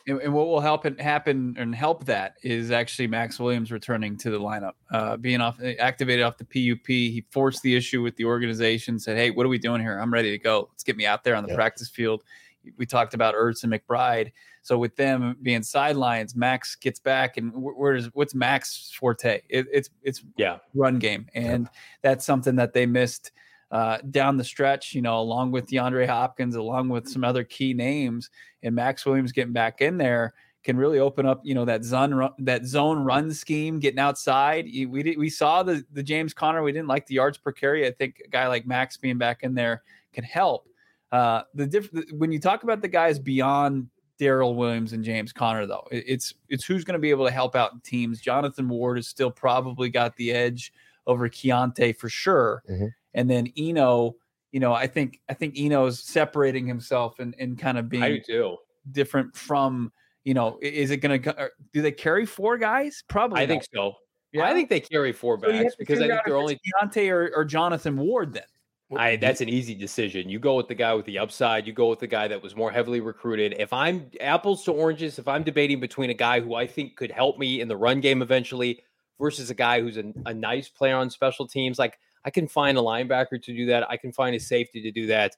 And what will happen and help that is actually Max Williams returning to the lineup, being activated off the PUP. He forced the issue with the organization, said, "Hey, what are we doing here? I'm ready to go. Let's get me out there on the practice field." We talked about Ertz and McBride. So with them being sidelines, Max gets back, and what's Max's forte? It's run game, and that's something that they missed down the stretch. Along with DeAndre Hopkins, along with some other key names, and Max Williams getting back in there can really open up, that zone run scheme, getting outside. We saw the James Conner. We didn't like the yards per carry. I think a guy like Max being back in there can help. When you talk about the guys beyond Darrell Williams and James Conner, though, it's who's going to be able to help out in teams. Jonathan Ward has still probably got the edge over Keontae for sure. Mm-hmm. And then Eno, I think Eno's separating himself and kind of being different from, is it going to, do they carry 4 guys? Probably. I think so. Yeah. I think they carry 4 backs because I think they're only Keontae or Jonathan Ward then. That's an easy decision. You go with the guy with the upside. You go with the guy that was more heavily recruited. If I'm apples to oranges, if I'm debating between a guy who I think could help me in the run game eventually versus a guy who's a nice player on special teams, like I can find a linebacker to do that. I can find a safety to do that.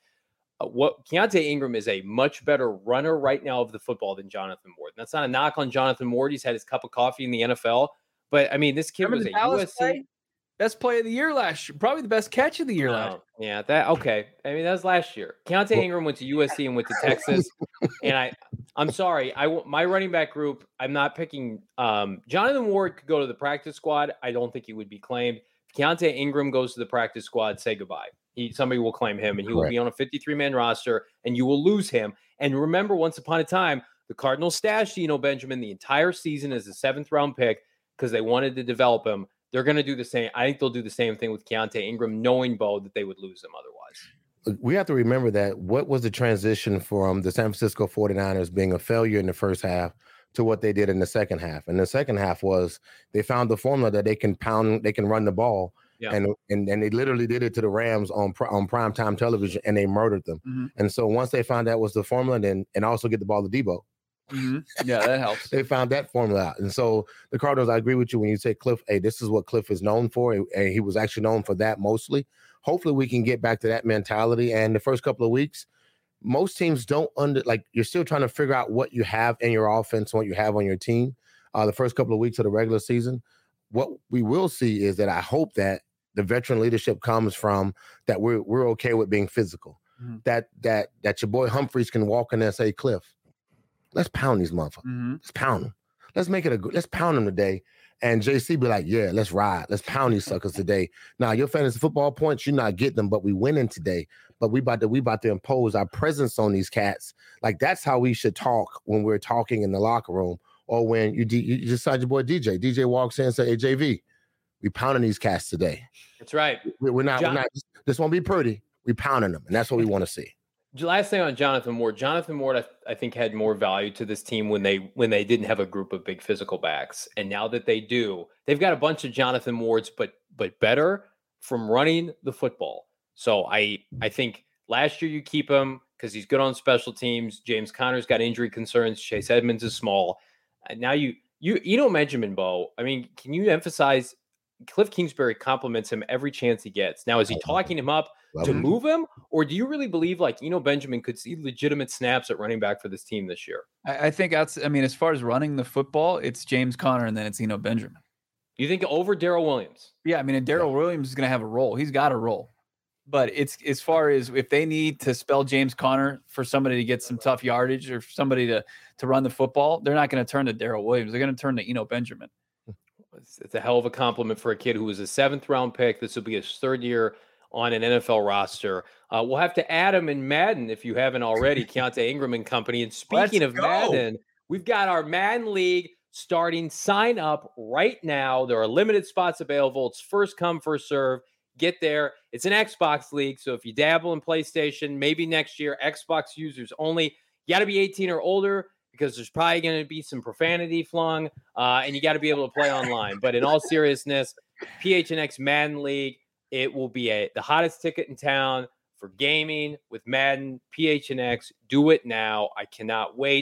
Keontae Ingram is a much better runner right now of the football than Jonathan Ward. And that's not a knock on Jonathan Ward. He's had his cup of coffee in the NFL. But, I mean, this kid was a USC. Best play of the year last year. Probably the best catch of the year last year. Yeah, okay. I mean, that was last year. Keontae Ingram went to USC and went to Texas. And I'm sorry. My running back group, I'm not picking. Jonathan Ward could go to the practice squad. I don't think he would be claimed. If Keontae Ingram goes to the practice squad, say goodbye. Somebody will claim him, and he will be on a 53-man roster, and you will lose him. And remember, once upon a time, the Cardinals stashed Eno Benjamin the entire season as a 7th-round pick because they wanted to develop him. They're going to do the same. I think they'll do the same thing with Keontae Ingram, knowing, Bo, that they would lose him otherwise. We have to remember that what was the transition from the San Francisco 49ers being a failure in the first half to what they did in the second half. And the second half was they found the formula that they can run the ball. Yeah. And they literally did it to the Rams on primetime television, and they murdered them. Mm-hmm. And so once they found that was the formula, and also get the ball to Debo. Mm-hmm. Yeah, that helps. They found that formula out. And so the Cardinals, I agree with you when you say Cliff, hey, this is what Cliff is known for. And he was actually known for that mostly. Hopefully we can get back to that mentality. And the first couple of weeks, most teams don't you're still trying to figure out what you have in your offense, what you have on your team. The first couple of weeks of the regular season, what we will see is that I hope that the veteran leadership comes from that we're okay with being physical. Mm-hmm. That your boy Humphreys can walk in there and say, Cliff, let's pound these motherfuckers. Mm-hmm. Let's pound them. Let's pound them today. And JC be like, yeah, let's ride. Let's pound these suckers today. Now, your fantasy football points, you're not getting them, but we winning today. But we about to impose our presence on these cats. Like, that's how we should talk when we're talking in the locker room, or when you just saw your boy DJ. DJ walks in and say, hey, JV, we pounding these cats today. That's right. We're not. This won't be pretty. We pounding them, and that's what we want to see. Last thing on Jonathan Ward. Jonathan Ward, I think, had more value to this team when they didn't have a group of big physical backs, and now that they do, they've got a bunch of Jonathan Wards, but better from running the football. So I think last year you keep him because he's good on special teams. James Conner's got injury concerns. Chase Edmonds is small. And now you Benjamin, Bo. I mean, can you emphasize Cliff Kingsbury compliments him every chance he gets? Now, is he talking him up to move him, or do you really believe Eno Benjamin could see legitimate snaps at running back for this team this year? I think as far as running the football, it's James Conner and then it's Eno Benjamin. You think over Darrell Williams? Yeah, I mean, and Darrell Williams is going to have a role. He's got a role. But it's as far as if they need to spell James Conner for somebody to get some tough yardage or somebody to run the football, they're not going to turn to Darrell Williams. They're going to turn to Eno Benjamin. It's a hell of a compliment for a kid who was a 7th-round pick. This will be his 3rd year on an NFL roster. We'll have to add him in Madden if you haven't already, Keontae Ingram and company. And speaking of Madden, we've got our Madden League starting. Sign up right now. There are limited spots available. It's first come, first serve. Get there. It's an Xbox League, so if you dabble in PlayStation, maybe next year, Xbox users only. You got to be 18 or older, because there's probably going to be some profanity flung, and you got to be able to play online. But in all seriousness, PHNX Madden League, it will be the hottest ticket in town for gaming with Madden. PHNX, do it now. I cannot wait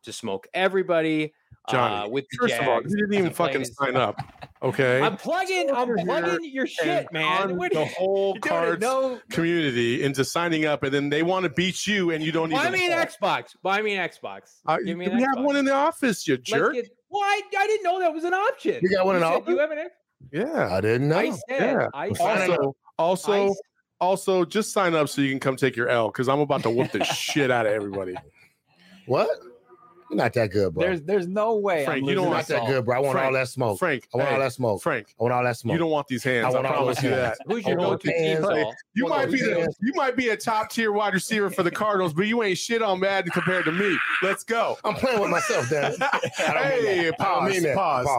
to smoke everybody. Johnny, with the first of all, Jags. you didn't even fucking sign up. Okay. I'm plugging your shit, man. What The whole cards community into signing up, and then they want to beat you, and you don't even. Buy me an Xbox. Buy me an Xbox. Give me an we Xbox. have one in the office, you jerk. I didn't know that was an option. You got one in the office? You have an Xbox? Yeah, I didn't know. I said. Also, just sign up so you can come take your L because I'm about to whoop the shit out of everybody. What? You're not that good, bro. There's no way. Frank, you don't want that good, bro. I want all that smoke. Frank, I want all that smoke. Frank, I want all that smoke. You don't want these hands. I promise you that. Who's your go-to team? You might be a top tier wide receiver for the Cardinals, but you ain't shit on Madden compared to me. Let's go. I'm playing with myself, Dad. Hey, pause.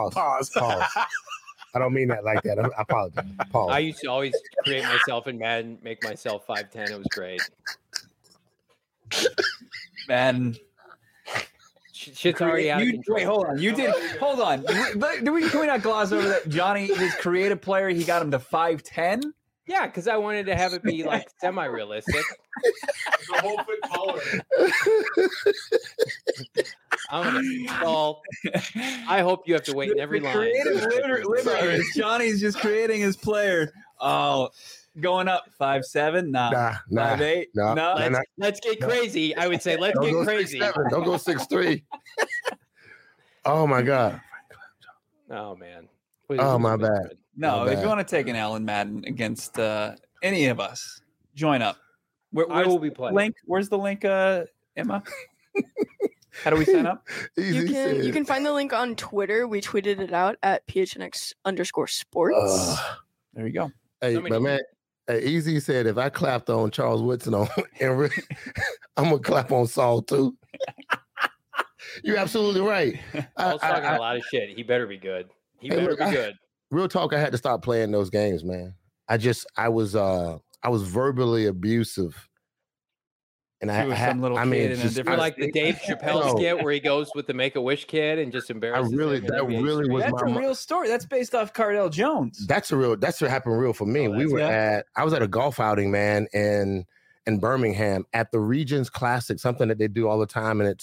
I don't mean that like that. I apologize. Pause. I used to always create myself in Madden, make myself 5'10". It was great. Madden. Shit's already out of control. Wait, hold on. Hold on. Can we not gloss over that? Johnny, his creative player, he got him to 5'10". Yeah, because I wanted to have it be like semi-realistic. The whole foot taller. I hope you have to wait in every line. Creative liberty. Johnny's just creating his player. Oh, going up 5'7". Nah. 5'8". No. Let's get crazy. I would say let's get crazy. 6'7". Don't go 6'3". Oh my God. Oh man. Oh my bad. No, if you want to take an L in Madden against any of us, join up. I will be playing. Where's the link, Emma? How do we sign up? You can find the link on Twitter. We tweeted it out at PHNX_sports. There you go. Hey, my man. Hey, Easy said if I clapped on Charles Woodson I'm gonna clap on Saul too. You're absolutely right. I was talking a lot of shit. He better be good. He better be good. Real talk, I had to stop playing those games, man. I was verbally abusive. And like the Dave Chappelle skit where he goes with the Make-A-Wish kid and just embarrasses him. That's a real story. That's based off Cardell Jones. That's what happened real for me. I was at a golf outing, man, in Birmingham at the Regions Classic, something that they do all the time, and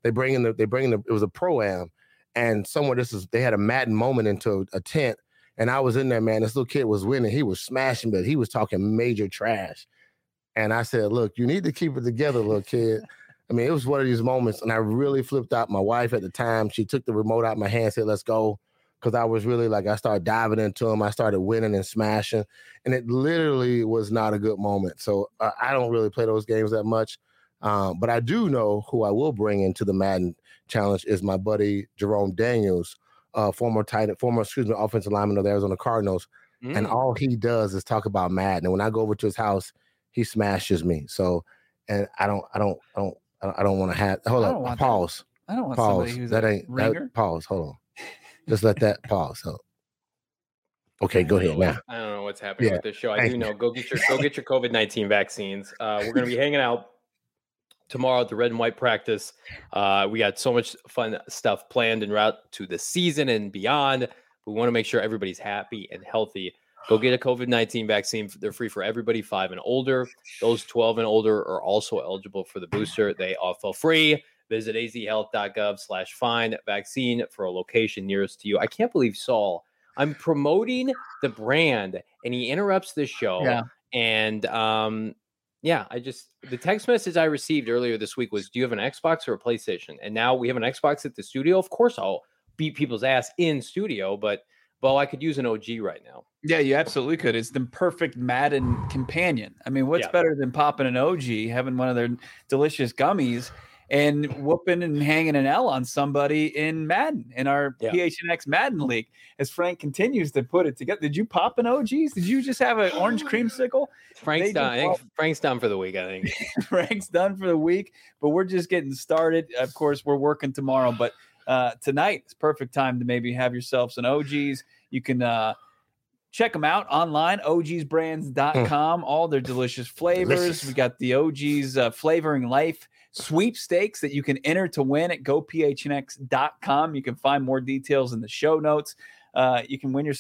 it was a pro-am, and they had a Madden moment into a tent, and I was in there, man. This little kid was winning. He was smashing, but he was talking major trash. And I said, look, you need to keep it together, little kid. I mean, it was one of these moments, and I really flipped out. My wife at the time, she took the remote out of my hand, said, let's go, because I was really I started diving into him. I started winning and smashing, and it literally was not a good moment. So I don't really play those games that much, but I do know who I will bring into the Madden Challenge is my buddy Jerome Daniels, former offensive lineman of the Arizona Cardinals, and all he does is talk about Madden. And when I go over to his house, he smashes me. So, and I don't want to have. Hold on. Pause. I don't want somebody who's pause. Hold on. Just let that pause. So, okay, go ahead now. I don't know what's happening with this show. I do know. Go get your COVID-19 vaccines. We're going to be hanging out tomorrow at the Red and White practice. We got so much fun stuff planned en route to the season and beyond. We want to make sure everybody's happy and healthy. Go get a COVID-19 vaccine. They're free for everybody 5 and older. Those 12 and older are also eligible for the booster. They all feel free. Visit azhealth.gov/find vaccine for a location nearest to you. I can't believe Saul. I'm promoting the brand and he interrupts this show. Yeah. And the text message I received earlier this week was, do you have an Xbox or a PlayStation? And now we have an Xbox at the studio. Of course, I'll beat people's ass in studio, but I could use an OG right now. Yeah, you absolutely could. It's the perfect Madden companion. I mean, what's better than popping an OG, having one of their delicious gummies, and whooping and hanging an L on somebody in Madden, in our PHNX Madden League? As Frank continues to put it together. Did you pop an OGs? Did you just have an orange creamsicle? Frank's done. Frank's done for the week, I think. Frank's done for the week, but we're just getting started. Of course, we're working tomorrow, but tonight is perfect time to maybe have yourself some OGs. You can check them out online, ogsbrands.com, all their delicious flavors. We got the OGs Flavoring Life sweepstakes that you can enter to win at gophnx.com. You can find more details in the show notes. You can win yourself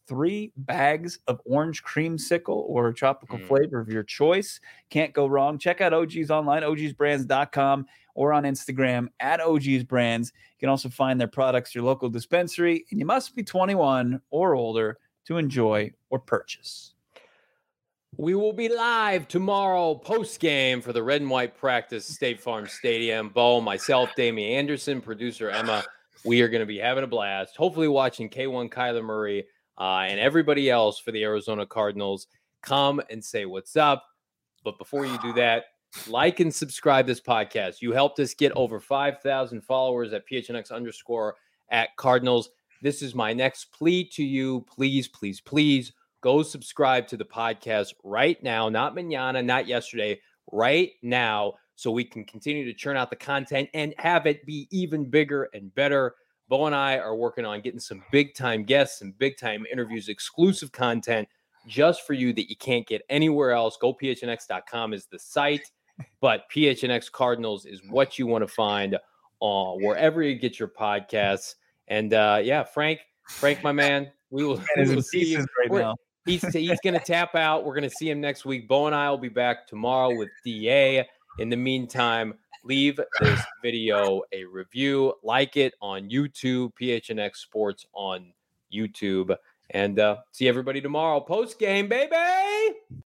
3 bags of orange creamsicle or tropical flavor of your choice. Can't go wrong. Check out OG's online, ogsbrands.com, or on Instagram at ogsbrands. You can also find their products at your local dispensary, and you must be 21 or older to enjoy or purchase. We will be live tomorrow post-game for the red and white practice, State Farm Stadium. Bo, myself, Damian Anderson, producer Emma, we are going to be having a blast, hopefully watching K1 Kyler Murray and everybody else for the Arizona Cardinals. Come and say what's up. But before you do that, like and subscribe this podcast. You helped us get over 5,000 followers at PHNX_@Cardinals. This is my next plea to you. Please, please, please go subscribe to the podcast right now. Not mañana, not yesterday, right now, so we can continue to churn out the content and have it be even bigger and better. Bo and I are working on getting some big-time guests and big-time interviews, exclusive content just for you that you can't get anywhere else. GoPHNX.com is the site, but PHNX Cardinals is what you want to find wherever you get your podcasts. And, Frank, my man, we will see you right now. He's going to tap out. We're going to see him next week. Bo and I will be back tomorrow with DA. In the meantime, leave this video a review, like it on YouTube, PHNX Sports on YouTube, and see everybody tomorrow. Post game, baby!